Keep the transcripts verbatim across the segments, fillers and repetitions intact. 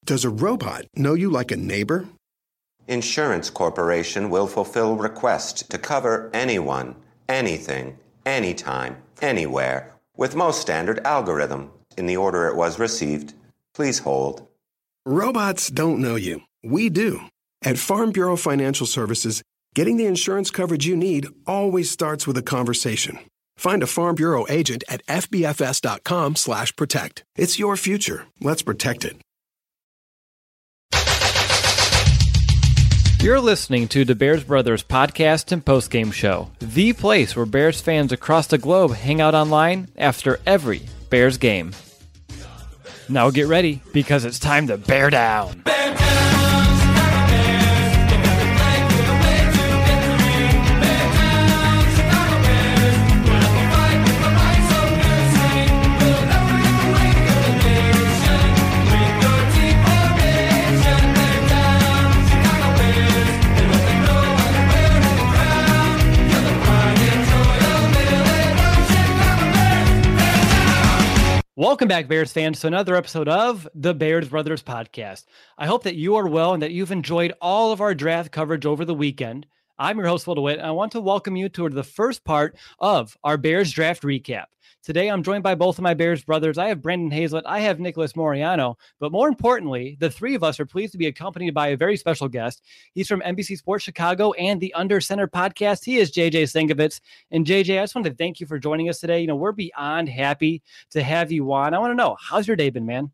Does a robot know you like a neighbor? Insurance Corporation will fulfill requests to cover anyone, anything, anytime, anywhere, with most standard algorithm in the order it was received. Please hold. Robots don't know you. We do. At Farm Bureau Financial Services, getting the insurance coverage you need always starts with a conversation. Find a Farm Bureau agent at F B F S dot com slash protect. It's your future. Let's protect it. You're listening to the Bears Brothers podcast and postgame show, the place where Bears fans across the globe hang out online after every Bears game. Now get ready, because it's time to bear down. Bear down! Welcome back, Bears fans, to another episode of the Bears Brothers podcast. I hope that you are well and that you've enjoyed all of our draft coverage over the weekend. I'm your host, Will DeWitt, and I want to welcome you to the first part of our Bears draft recap. Today, I'm joined by both of my Bears brothers. I have Brandon Hazlett, I have Nicholas Moriano, but more importantly, the three of us are pleased to be accompanied by a very special guest. He's from N B C Sports Chicago and the Under Center podcast. He is J J Stankevitz. And J J, I just want to thank you for joining us today. You know, we're beyond happy to have you on. I want to know, how's your day been, man?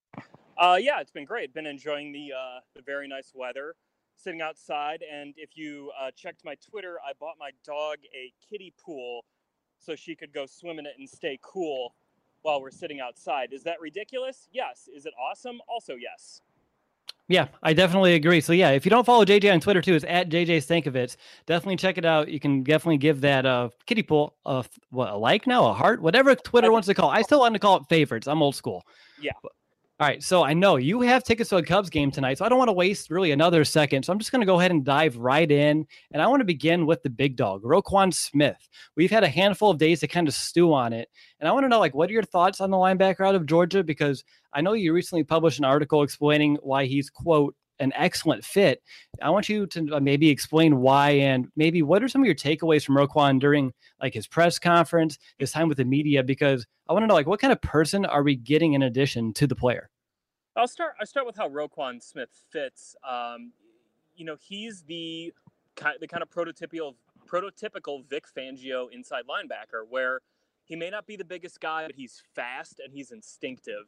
Uh, yeah, it's been great. Been enjoying the uh, the very nice weather, sitting outside. And if you uh, checked my Twitter, I bought my dog a kiddie pool so she could go swim in it and stay cool while we're sitting outside. Is that ridiculous? Yes. Is it awesome? Also, yes. Yeah, I definitely agree. So yeah, if you don't follow J J on Twitter too, it's at J J Stankevitz. Definitely check it out. You can definitely give that uh, kiddie pool a, what, a like now, a heart, whatever Twitter wants to call it. I still want to call it favorites. I'm old school. Yeah. All right, so I know you have tickets to a Cubs game tonight, so I don't want to waste really another second. So I'm just going to go ahead and dive right in, and I want to begin with the big dog, Roquan Smith. We've had a handful of days to kind of stew on it, and I want to know, like, what are your thoughts on the linebacker out of Georgia? Because I know you recently published an article explaining why he's, quote, an excellent fit. I want you to maybe explain why, and maybe what are some of your takeaways from Roquan during like his press conference, his time with the media, because I want to know, like, what kind of person are we getting in addition to the player? I'll start. I'll start with how Roquan Smith fits. Um, you know, he's the kind, the kind of prototypical, prototypical Vic Fangio inside linebacker, where he may not be the biggest guy, but he's fast and he's instinctive.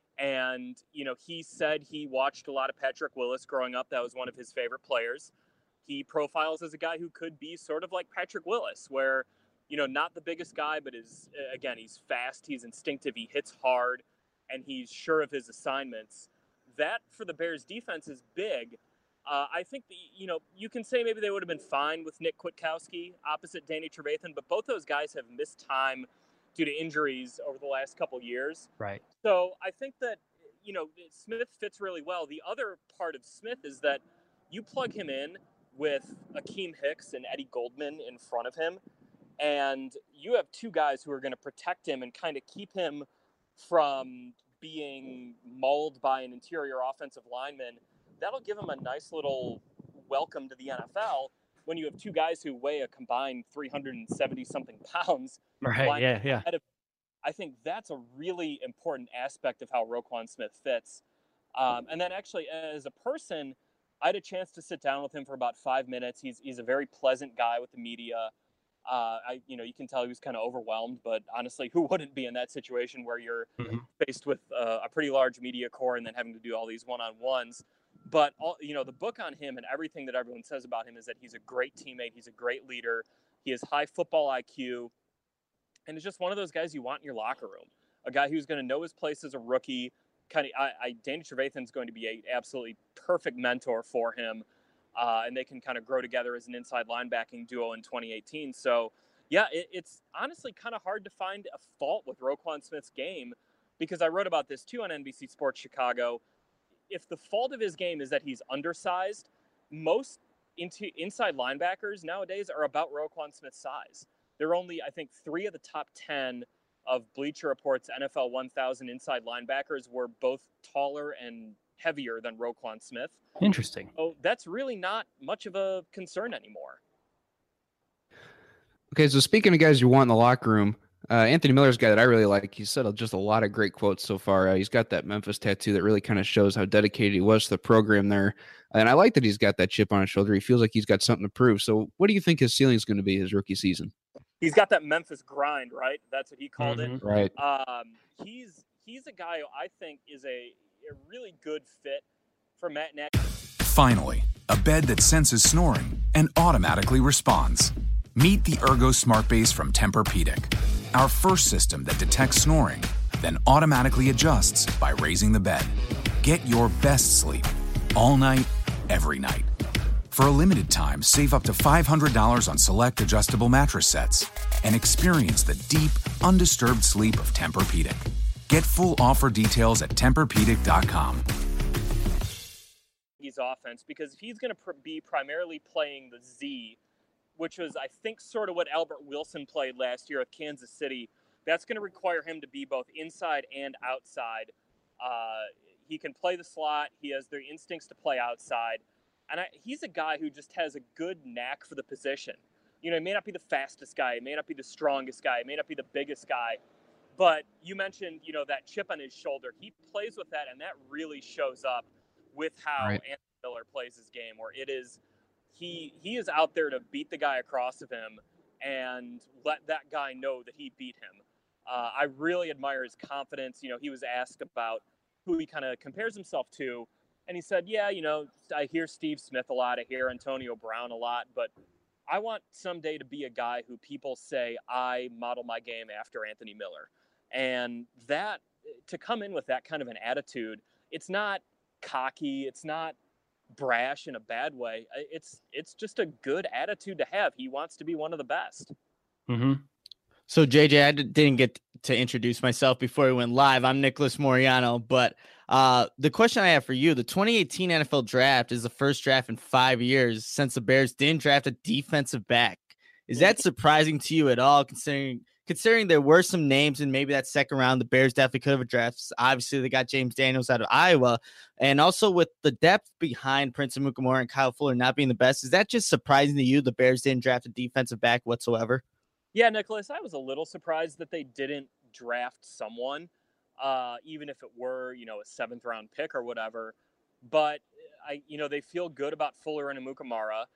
And, you know, he said he watched a lot of Patrick Willis growing up. That was one of his favorite players. He profiles as a guy who could be sort of like Patrick Willis, where, you know, not the biggest guy, but is, again, he's fast, he's instinctive, he hits hard, and he's sure of his assignments. That, for the Bears defense, is big. Uh, I think, the, you know, you can say maybe they would have been fine with Nick Kwiatkowski opposite Danny Trevathan, but both those guys have missed time due to injuries over the last couple years. Right. So I think that, you know, Smith fits really well. The other part of Smith is that you plug him in with Akeem Hicks and Eddie Goldman in front of him, and you have two guys who are going to protect him and kind of keep him from being mauled by an interior offensive lineman. That'll give him a nice little welcome to the N F L when you have two guys who weigh a combined three hundred seventy something pounds. Right. Yeah. Yeah. I think that's a really important aspect of how Roquan Smith fits. Um, and then actually, as a person, I had a chance to sit down with him for about five minutes. He's he's a very pleasant guy with the media. Uh, I, you know, you can tell he was kind of overwhelmed, but honestly, who wouldn't be in that situation where you're mm-hmm. faced with uh, a pretty large media corps and then having to do all these one-on-ones? But, all, you know, the book on him and everything that everyone says about him is that he's a great teammate. He's a great leader. He has high football I Q. And it's just one of those guys you want in your locker room. A guy who's going to know his place as a rookie. Kind of, I, I Danny Trevathan's going to be a absolutely perfect mentor for him. Uh, and they can kind of grow together as an inside linebacking duo in twenty eighteen. So, yeah, it, it's honestly kind of hard to find a fault with Roquan Smith's game, because I wrote about this too on N B C Sports Chicago. If the fault of his game is that he's undersized, most into inside linebackers nowadays are about Roquan Smith's size. There are only, I think, three of the top ten of Bleacher Report's N F L one thousand inside linebackers were both taller and heavier than Roquan Smith. Interesting. So that's really not much of a concern anymore. Okay, so speaking of guys you want in the locker room, uh, Anthony Miller's a guy that I really like. He said just a lot of great quotes so far. Uh, he's got that Memphis tattoo that really kind of shows how dedicated he was to the program there. And I like that he's got that chip on his shoulder. He feels like he's got something to prove. So what do you think his ceiling is going to be his rookie season? He's got that Memphis grind, right? That's what he called Mhm. it. Right. Um, he's he's a guy who I think is a, a really good fit for Matt Nagy. Finally, a bed that senses snoring and automatically responds. Meet the Ergo Smart Base from Tempur-Pedic, our first system that detects snoring, then automatically adjusts by raising the bed. Get your best sleep all night, every night. For a limited time, save up to five hundred dollars on select adjustable mattress sets and experience the deep, undisturbed sleep of Tempur-Pedic. Get full offer details at Tempur Pedic dot com. His offense, because if he's going to pr- be primarily playing the Z, which was, I think, sort of what Albert Wilson played last year with Kansas City, that's going to require him to be both inside and outside. Uh, he can play the slot. He has the instincts to play outside. And I, he's a guy who just has a good knack for the position. You know, he may not be the fastest guy. He may not be the strongest guy. He may not be the biggest guy. But you mentioned, you know, that chip on his shoulder. He plays with that, and that really shows up with how Right. Anthony Miller plays his game, where it is he he is out there to beat the guy across of him and let that guy know that he beat him. Uh, I really admire his confidence. You know, he was asked about who he kind of compares himself to, and he said, yeah, you know, I hear Steve Smith a lot, I hear Antonio Brown a lot, but I want someday to be a guy who people say I model my game after Anthony Miller. And that, to come in with that kind of an attitude, it's not cocky, it's not brash in a bad way. It's it's just a good attitude to have. He wants to be one of the best. Mm-hmm. So J J, I d- didn't get to introduce myself before we went live. I'm Nicholas Moriano, but uh, the question I have for you, the twenty eighteen N F L draft is the first draft in five years since the Bears didn't draft a defensive back. Is that surprising to you at all, considering considering there were some names in maybe that second round the Bears definitely could have drafted? Obviously, they got James Daniels out of Iowa, and also with the depth behind Prince Amukamara and Kyle Fuller not being the best, is that just surprising to you the Bears didn't draft a defensive back whatsoever? Yeah, Nicholas, I was a little surprised that they didn't draft someone, uh, even if it were, you know, a seventh round pick or whatever. But I, you know, they feel good about Fuller and Amukamara.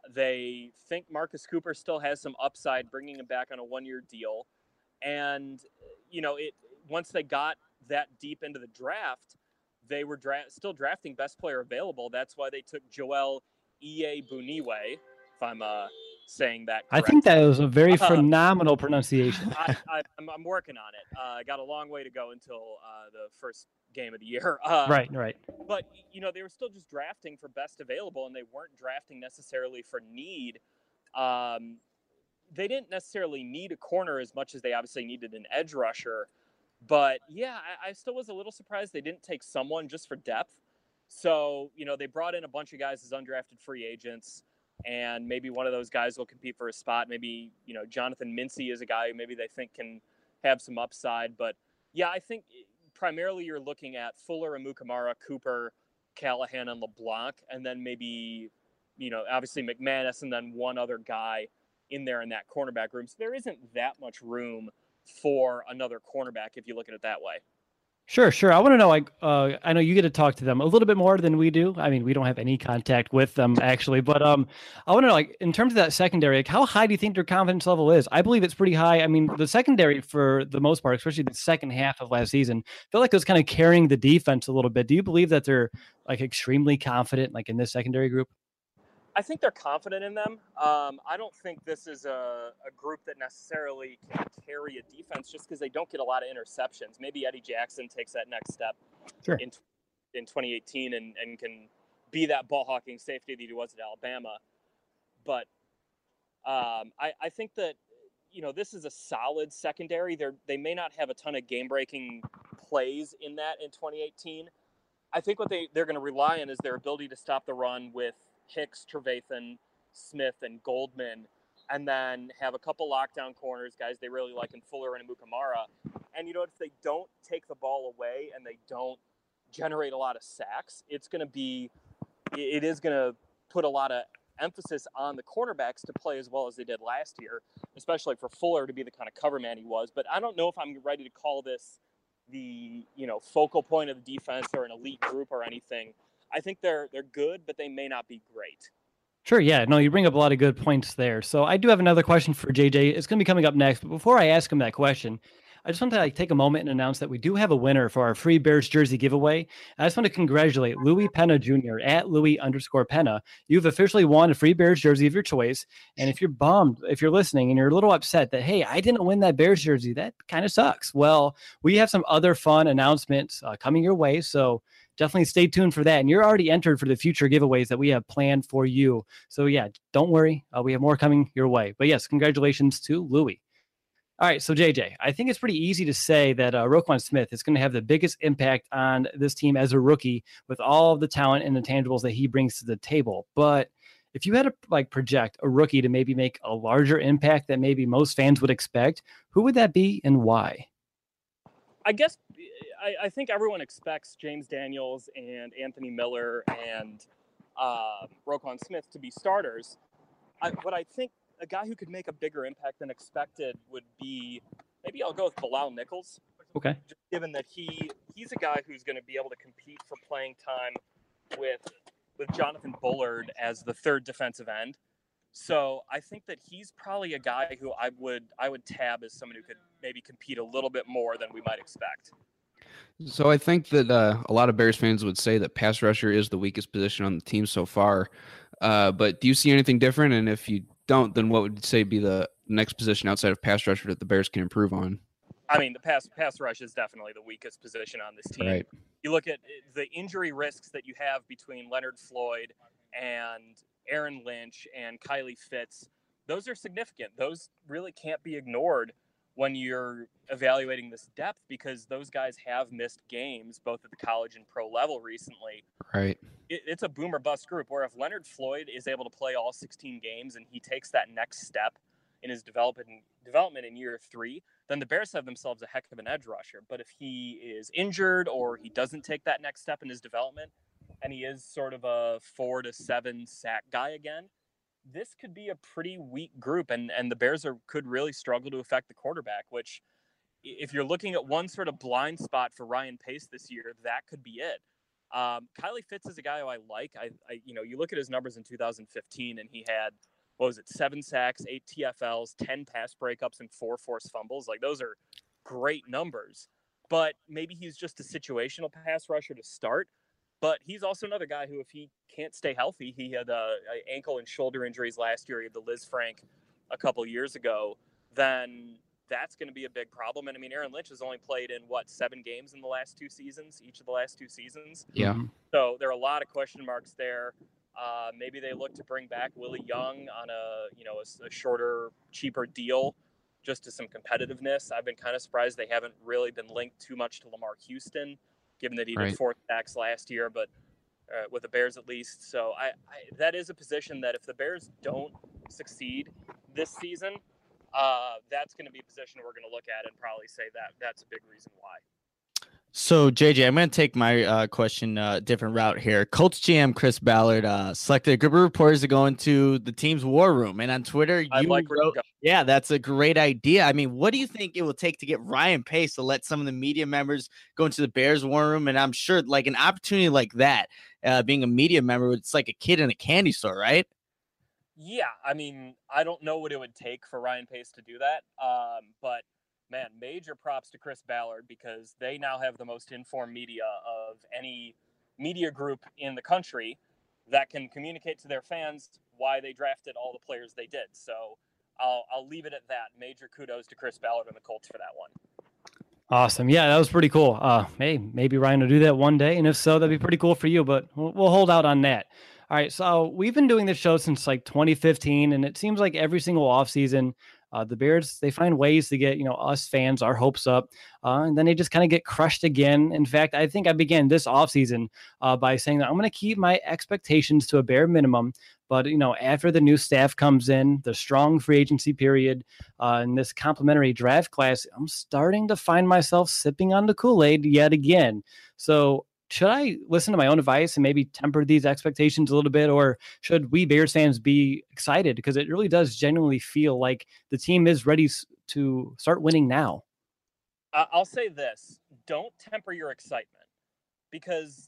They think Marcus Cooper still has some upside, bringing him back on a one-year deal. And, you know, it once they got that deep into the draft, they were dra- still drafting best player available. That's why they took Joel Iyiegbuniwe, if I'm uh, saying that I correct. think that was a very Uh, phenomenal pronunciation. I, I, I'm, I'm working on it. Uh, I got a long way to go until uh, the first game of the year. Uh, Right, right. But, you know, they were still just drafting for best available, and they weren't drafting necessarily for need. Um, they didn't necessarily need a corner as much as they obviously needed an edge rusher. But, yeah, I, I still was a little surprised they didn't take someone just for depth. So, you know, they brought in a bunch of guys as undrafted free agents, and maybe one of those guys will compete for a spot. Maybe, you know, Jonathan Mincy is a guy who maybe they think can have some upside. But, yeah, I think primarily you're looking at Fuller, Amukamara, Cooper, Callahan, and LeBlanc, and then maybe, you know, obviously McManus, and then one other guy in there in that cornerback room. So there isn't that much room for another cornerback if you look at it that way. Sure, sure. I want to know, like, uh, I know you get to talk to them a little bit more than we do. I mean, we don't have any contact with them actually, but um, I want to know, like, in terms of that secondary, like, how high do you think their confidence level is? I believe it's pretty high. I mean, the secondary for the most part, especially the second half of last season, felt like it was kind of carrying the defense a little bit. Do you believe that they're like extremely confident, like in this secondary group? I think they're confident in them. Um, I don't think this is a, a group that necessarily can carry a defense just because they don't get a lot of interceptions. Maybe Eddie Jackson takes that next step Sure. in in twenty eighteen and, and can be that ball hawking safety that he was at Alabama. But um, I, I think that, you know, this is a solid secondary. They're, they may not have a ton of game-breaking plays in that in twenty eighteen. I think what they, they're going to rely on is their ability to stop the run with Hicks, Trevathan, Smith, and Goldman, and then have a couple lockdown corners, guys they really like in Fuller and Amukamara. And, you know, if they don't take the ball away and they don't generate a lot of sacks. It's going to be, it is going to put a lot of emphasis on the cornerbacks to play as well as they did last year, especially for Fuller to be the kind of cover man he was. But I don't know if I'm ready to call this the, you know, focal point of the defense or an elite group or anything. I think they're they're good, but they may not be great. Sure. Yeah. No, you bring up a lot of good points there. So I do have another question for J J. It's going to be coming up next. But before I ask him that question, I just want to like take a moment and announce that we do have a winner for our free Bears jersey giveaway. I just want to congratulate Louis Penna Junior at Louis underscore Penna. You've officially won a free Bears jersey of your choice. And if you're bummed, if you're listening and you're a little upset that, hey, I didn't win that Bears jersey, that kind of sucks. Well, we have some other fun announcements uh, coming your way. So definitely stay tuned for that. And you're already entered for the future giveaways that we have planned for you. So yeah, don't worry. Uh, we have more coming your way. But yes, congratulations to Louis. All right, so J J, I think it's pretty easy to say that uh, Roquan Smith is going to have the biggest impact on this team as a rookie with all of the talent and the tangibles that he brings to the table. But if you had to like project a rookie to maybe make a larger impact that maybe most fans would expect, who would that be and why? I guess I, I think everyone expects James Daniels and Anthony Miller and uh, Roquan Smith to be starters. I, but I think a guy who could make a bigger impact than expected would be, maybe I'll go with Bilal Nichols. Okay. Just given that he he's a guy who's going to be able to compete for playing time with with Jonathan Bullard as the third defensive end. So I think that he's probably a guy who I would I would tab as someone who could maybe compete a little bit more than we might expect. So I think that uh, a lot of Bears fans would say that pass rusher is the weakest position on the team so far. Uh, but do you see anything different? And if you don't, then what would you say be the next position outside of pass rusher that the Bears can improve on? I mean, the pass pass rush is definitely the weakest position on this team. Right. You look at the injury risks that you have between Leonard Floyd and Aaron Lynch and Kylie Fitz. Those are significant. Those really can't be ignored when you're evaluating this depth, because those guys have missed games both at the college and pro level recently. Right. It, it's a boom or bust group where if Leonard Floyd is able to play all sixteen games and he takes that next step in his development development in year three, then the Bears have themselves a heck of an edge rusher. But if he is injured or he doesn't take that next step in his development and he is sort of a four to seven sack guy again, this could be a pretty weak group, and, and the Bears are could really struggle to affect the quarterback, which if you're looking at one sort of blind spot for Ryan Pace this year, that could be it. Um, Kylie Fitz is a guy who I like. I, I, you know, you look at his numbers in two thousand fifteen, and he had, what was it, seven sacks, eight T F Ls, ten pass breakups, and four forced fumbles. Like, those are great numbers. But maybe he's just a situational pass rusher to start. But he's also another guy who, if he can't stay healthy, he had uh, ankle and shoulder injuries last year. He had the Liz Frank a couple years ago. Then that's going to be a big problem. And I mean, Aaron Lynch has only played in what, seven games in the last two seasons, each of the last two seasons. Yeah. So there are a lot of question marks there. Uh, maybe they look to bring back Willie Young on a, you know, a, a shorter, cheaper deal, just to some competitiveness. I've been kind of surprised they haven't really been linked too much to Lamar Houston, given that he did Right. four sacks last year, but uh, with the Bears at least. So I, I that is a position that if the Bears don't succeed this season, uh, that's going to be a position we're going to look at and probably say that that's a big reason why. So, J J, I'm going to take my uh, question a uh, different route here. Colts G M Chris Ballard uh, selected a group of reporters to go into the team's war room. And on Twitter, you I like where wrote, you go. yeah, that's a great idea. I mean, what do you think it will take to get Ryan Pace to let some of the media members go into the Bears war room? And I'm sure like an opportunity like that, uh, being a media member, it's like a kid in a candy store, right? Yeah, I mean, I don't know what it would take for Ryan Pace to do that, um, but man, major props to Chris Ballard, because they now have the most informed media of any media group in the country that can communicate to their fans why they drafted all the players they did. So I'll, I'll leave it at that. Major kudos to Chris Ballard and the Colts for that one. Awesome. Yeah, that was pretty cool. Uh, hey, maybe Ryan will do that one day. And if so, that'd be pretty cool for you, but we'll, we'll hold out on that. All right. So we've been doing this show since like twenty fifteen, and it seems like every single offseason, Uh, the Bears, they find ways to get, you know, us fans, our hopes up, uh, and then they just kind of get crushed again. In fact, I think I began this offseason uh, by saying that I'm going to keep my expectations to a bare minimum. But, you know, after the new staff comes in, the strong free agency period, uh, and this complimentary draft class, I'm starting to find myself sipping on the Kool-Aid yet again. So should I listen to my own advice and maybe temper these expectations a little bit, or should we Bears fans be excited? Because it really does genuinely feel like the team is ready to start winning now. I'll say this. Don't temper your excitement, because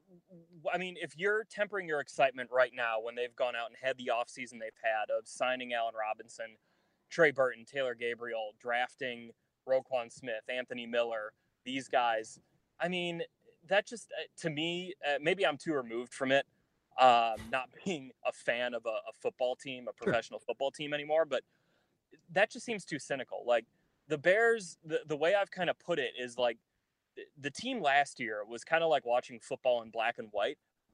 I mean, if you're tempering your excitement right now when they've gone out and had the offseason they've had of signing Allen Robinson, Trey Burton, Taylor Gabriel, drafting Roquan Smith, Anthony Miller, these guys, I mean, that just, to me, uh, maybe I'm too removed from it, um, not being a fan of a, a football team, a professional sure. football team anymore, but that just seems too cynical. Like, the Bears, the, the way I've kind of put it is like, the team last year was kind of like watching football in black and white.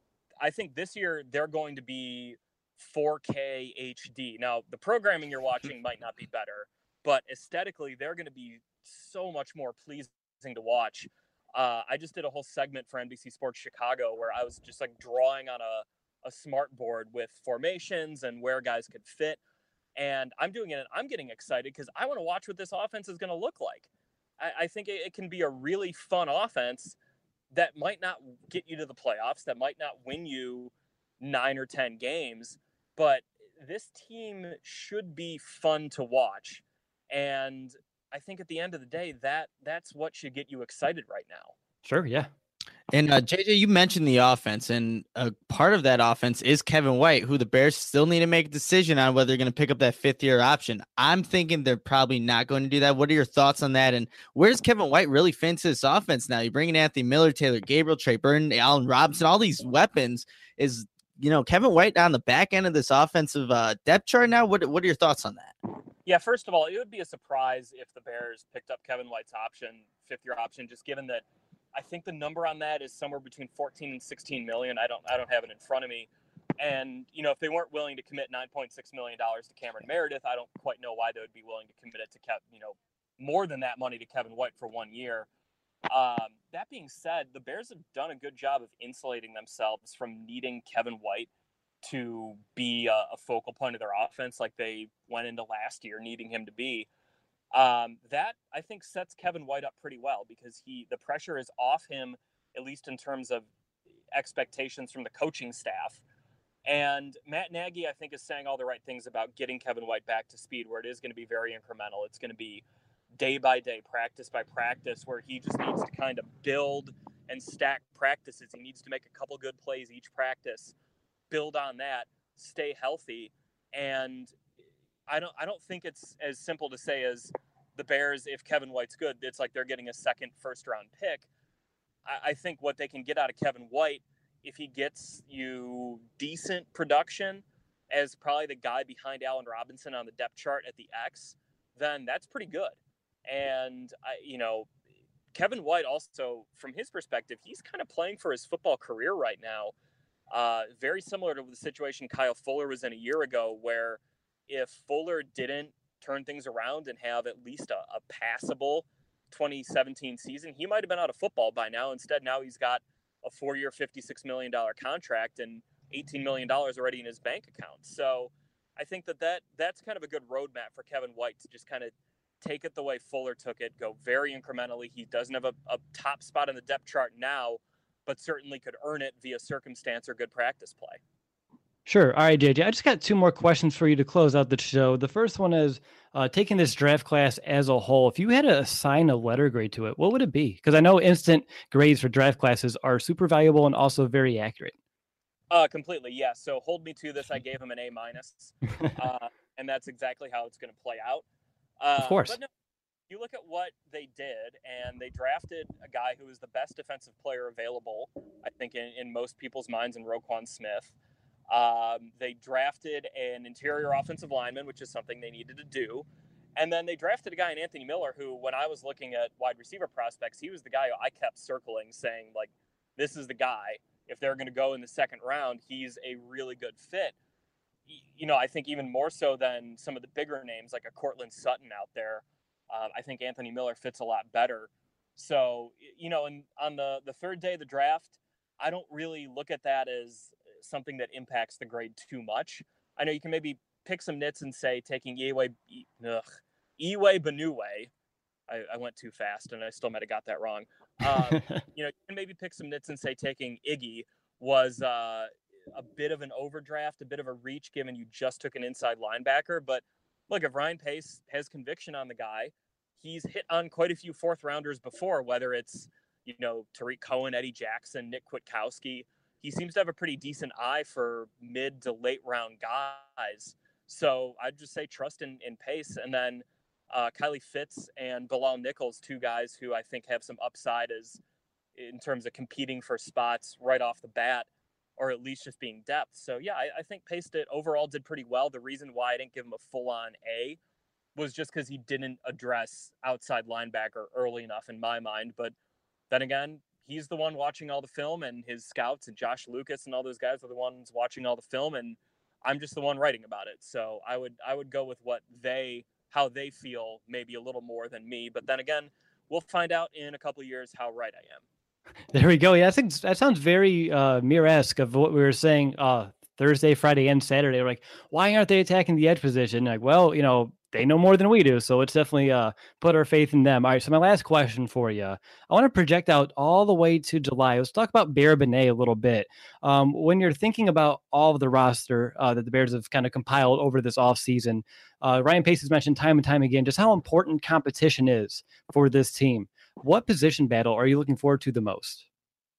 I think this year they're going to be four K H D. Now, the programming you're watching might not be better, but aesthetically, they're going to be so much more pleasing to watch. Uh, I just did a whole segment for N B C Sports Chicago where I was just like drawing on a, a smart board with formations and where guys could fit. And I'm doing it and I'm getting excited because I want to watch what this offense is going to look like. I think it can be a really fun offense that might not get you to the playoffs, that might not win you nine or ten games, but this team should be fun to watch. And I think at the end of the day, that that's what should get you excited right now. Sure, yeah. And uh, J J, you mentioned the offense, and a part of that offense is Kevin White, who the Bears still need to make a decision on whether they're going to pick up that fifth year option. I'm thinking they're probably not going to do that. What are your thoughts on that? And where does Kevin White really fit into this offense now? You bring in Anthony Miller, Taylor Gabriel, Trey Burton, Allen Robinson, all these weapons. Is, you know, Kevin White on the back end of this offensive uh, depth chart now? What What are your thoughts on that? Yeah, first of all, it would be a surprise if the Bears picked up Kevin White's option, fifth year option, just given that I think the number on that is somewhere between fourteen and sixteen million. I don't, I don't have it in front of me. And, you know, if they weren't willing to commit nine point six million dollars to Cameron Meredith, I don't quite know why they would be willing to commit it to Kev, you know, more than that money to Kevin White for one year. Um, that being said, the Bears have done a good job of insulating themselves from needing Kevin White to be a, a focal point of their offense, like they went into last year needing him to be. Um, that I think sets Kevin White up pretty well because he, the pressure is off him, at least in terms of expectations from the coaching staff. And Matt Nagy, I think, is saying all the right things about getting Kevin White back to speed, where it is going to be very incremental. It's going to be day by day, practice by practice, where he just needs to kind of build and stack practices. He needs to make a couple good plays each practice, build on that, stay healthy. And I don't I don't think it's as simple to say as the Bears, if Kevin White's good, it's like they're getting a second first round pick. I, I think what they can get out of Kevin White, if he gets you decent production as probably the guy behind Allen Robinson on the depth chart at the X, then that's pretty good. And I, you know, Kevin White also, from his perspective, he's kind of playing for his football career right now. Uh, very similar to the situation Kyle Fuller was in a year ago, where if Fuller didn't turn things around and have at least a, a passable twenty seventeen season, he might have been out of football by now. Instead, now he's got a four-year, fifty-six million dollars contract and eighteen million dollars already in his bank account. So I think that, that that's kind of a good roadmap for Kevin White to just kind of take it the way Fuller took it, go very incrementally. He doesn't have a, a top spot in the depth chart now, but certainly could earn it via circumstance or good practice play. Sure. All right, J J, I just got two more questions for you to close out the show. The first one is uh, taking this draft class as a whole. If you had to assign a letter grade to it, what would it be? Because I know instant grades for draft classes are super valuable and also very accurate. Uh, completely, yeah. So hold me to this. I gave him an A minus, uh, and that's exactly how it's going to play out. Uh, of course. But no, you look at what they did, and they drafted a guy who was the best defensive player available, I think, in, in most people's minds, in Roquan Smith. Um, they drafted an interior offensive lineman, which is something they needed to do. And then they drafted a guy in Anthony Miller, who, when I was looking at wide receiver prospects, he was the guy I kept circling, saying, like, this is the guy. If they're going to go in the second round, he's a really good fit. You know, I think even more so than some of the bigger names, like a Cortland Sutton out there. Uh, I think Anthony Miller fits a lot better. So, you know, and on the, the third day of the draft, I don't really look at that as something that impacts the grade too much. I know you can maybe pick some nits and say taking Iwe, ugh, Iwe Benue. I, I went too fast and I still might have got that wrong. Um, you know, you can maybe pick some nits and say taking Iggy was uh, a bit of an overdraft, a bit of a reach, given you just took an inside linebacker. But look, if Ryan Pace has conviction on the guy, he's hit on quite a few fourth rounders before, whether it's, you know, Tariq Cohen, Eddie Jackson, Nick Kwiatkowski. He seems to have a pretty decent eye for mid to late round guys. So I'd just say trust in, in Pace. And then uh, Kylie Fitz and Bilal Nichols, two guys who I think have some upside as in terms of competing for spots right off the bat, or at least just being depth. So yeah, I, I think Pace did overall did pretty well. The reason why I didn't give him a full on A was just because he didn't address outside linebacker early enough in my mind. But then again, he's the one watching all the film, and his scouts and Josh Lucas and all those guys are the ones watching all the film, and I'm just the one writing about it. So I would I would go with what they how they feel, maybe a little more than me. But then again, we'll find out in a couple of years how right I am. There we go. Yeah, I think that sounds very uh, Mir-esque of what we were saying uh, Thursday, Friday, and Saturday. We're like, why aren't they attacking the edge position? Like, well, you know, they know more than we do, so let's definitely uh, put our faith in them. All right, so my last question for you. I want to project out all the way to July. Let's talk about Bear Benet a little bit. Um, when you're thinking about all of the roster uh, that the Bears have kind of compiled over this offseason, uh, Ryan Pace has mentioned time and time again just how important competition is for this team. What position battle are you looking forward to the most?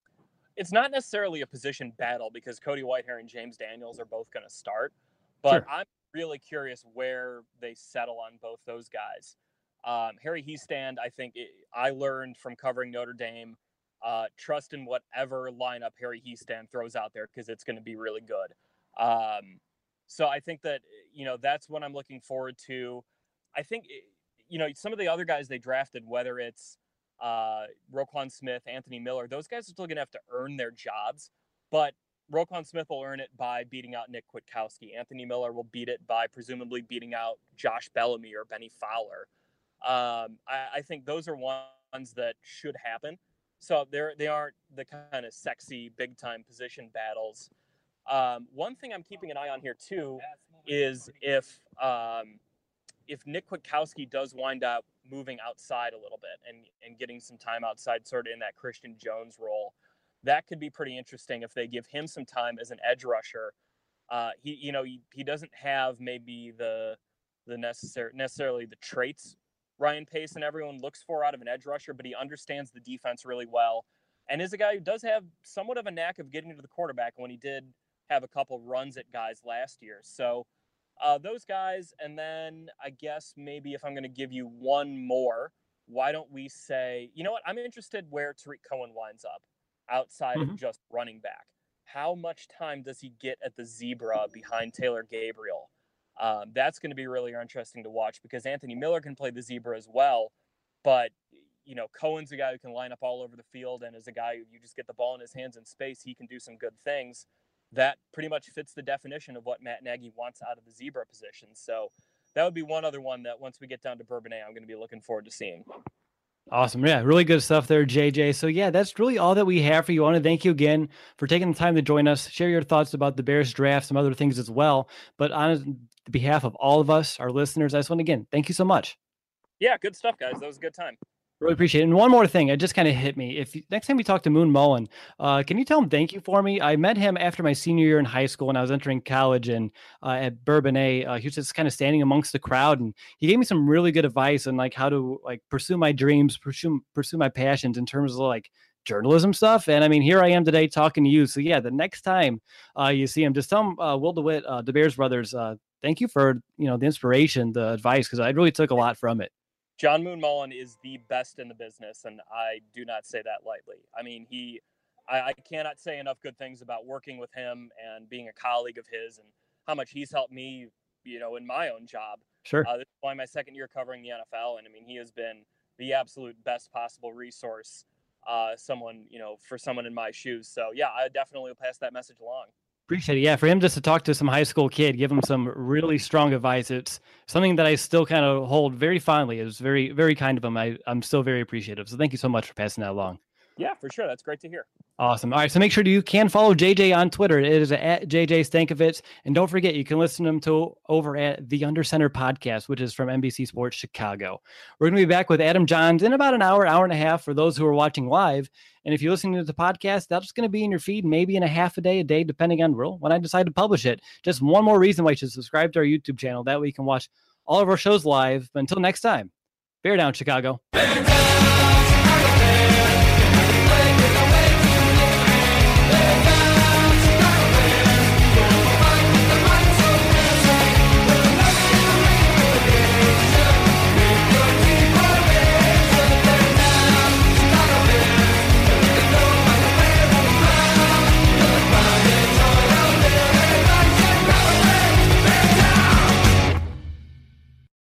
It's not necessarily a position battle because Cody Whitehair and James Daniels are both going to start, but sure. I'm really curious where they settle on both those guys. Um, Harry Hiestand, I think it, I learned from covering Notre Dame, uh, trust in whatever lineup Harry Hiestand throws out there because it's going to be really good. Um, so I think that, you know, that's what I'm looking forward to. I think, you know, some of the other guys they drafted, whether it's uh, Roquan Smith, Anthony Miller, those guys are still going to have to earn their jobs, but Roquan Smith will earn it by beating out Nick Kwiatkowski. Anthony Miller will beat it by presumably beating out Josh Bellamy or Benny Fowler. Um, I, I think those are ones that should happen. So they're, they aren't the kind of sexy big time position battles. Um, one thing I'm keeping an eye on here too is if, um, if Nick Kwiatkowski does wind up moving outside a little bit and, and getting some time outside sort of in that Christian Jones role, that could be pretty interesting if they give him some time as an edge rusher. Uh, he, you know, he, he doesn't have maybe the the necessary necessarily the traits Ryan Pace and everyone looks for out of an edge rusher, but he understands the defense really well and is a guy who does have somewhat of a knack of getting to the quarterback when he did have a couple runs at guys last year. So uh, those guys, and then I guess maybe if I'm going to give you one more, why don't we say, you know what, I'm interested where Tariq Cohen winds up outside mm-hmm. of just running back. How much time does he get at the zebra behind Taylor Gabriel? Um, that's going to be really interesting to watch because Anthony Miller can play the zebra as well. But, you know, Cohen's a guy who can line up all over the field and is a guy who you just get the ball in his hands in space. He can do some good things. That pretty much fits the definition of what Matt Nagy wants out of the zebra position. So that would be one other one that once we get down to Bourbonnais, I'm going to be looking forward to seeing. Awesome. Yeah, really good stuff there, J J. So yeah, that's really all that we have for you. I want to thank you again for taking the time to join us, share your thoughts about the Bears draft, some other things as well. But on behalf of all of us, our listeners, I just want to again, thank you so much. Yeah, good stuff, guys. That was a good time. Really appreciate it. And one more thing, it just kind of hit me. If you, next time you talk to Moon Mullen, uh, can you tell him thank you for me? I met him after my senior year in high school when I was entering college, and uh, at Bourbonnais, uh, he was just kind of standing amongst the crowd, and he gave me some really good advice on like how to like pursue my dreams, pursue pursue my passions in terms of like journalism stuff. And I mean, here I am today talking to you. So yeah, the next time uh, you see him, just tell him uh, Will DeWitt, uh, the Bears brothers, uh, thank you for you know the inspiration, the advice, because I really took a lot from it. John Moon Mullen is the best in the business, and I do not say that lightly. I mean, he, I, I cannot say enough good things about working with him and being a colleague of his and how much he's helped me, you know, in my own job. Sure. Uh, this is only my second year covering the N F L, and I mean, he has been the absolute best possible resource, uh, someone, you know, for someone in my shoes. So yeah, I definitely will pass that message along. Appreciate it. Yeah, for him just to talk to some high school kid, give him some really strong advice. It's something that I still kind of hold very fondly. It was very, very kind of him. I, I'm still very appreciative. So thank you so much for passing that along. Yeah, for sure. That's great to hear. Awesome. All right. So make sure you can follow J J on Twitter. It is at J J Stankovitz. And don't forget, you can listen to him to over at the Under Center podcast, which is from N B C Sports Chicago. We're going to be back with Adam Johns in about an hour, hour and a half for those who are watching live. And if you're listening to the podcast, that's going to be in your feed maybe in a half a day, a day, depending on when I decide to publish it. Just one more reason why you should subscribe to our YouTube channel. That way you can watch all of our shows live. But until next time, bear down, Chicago. Bear down!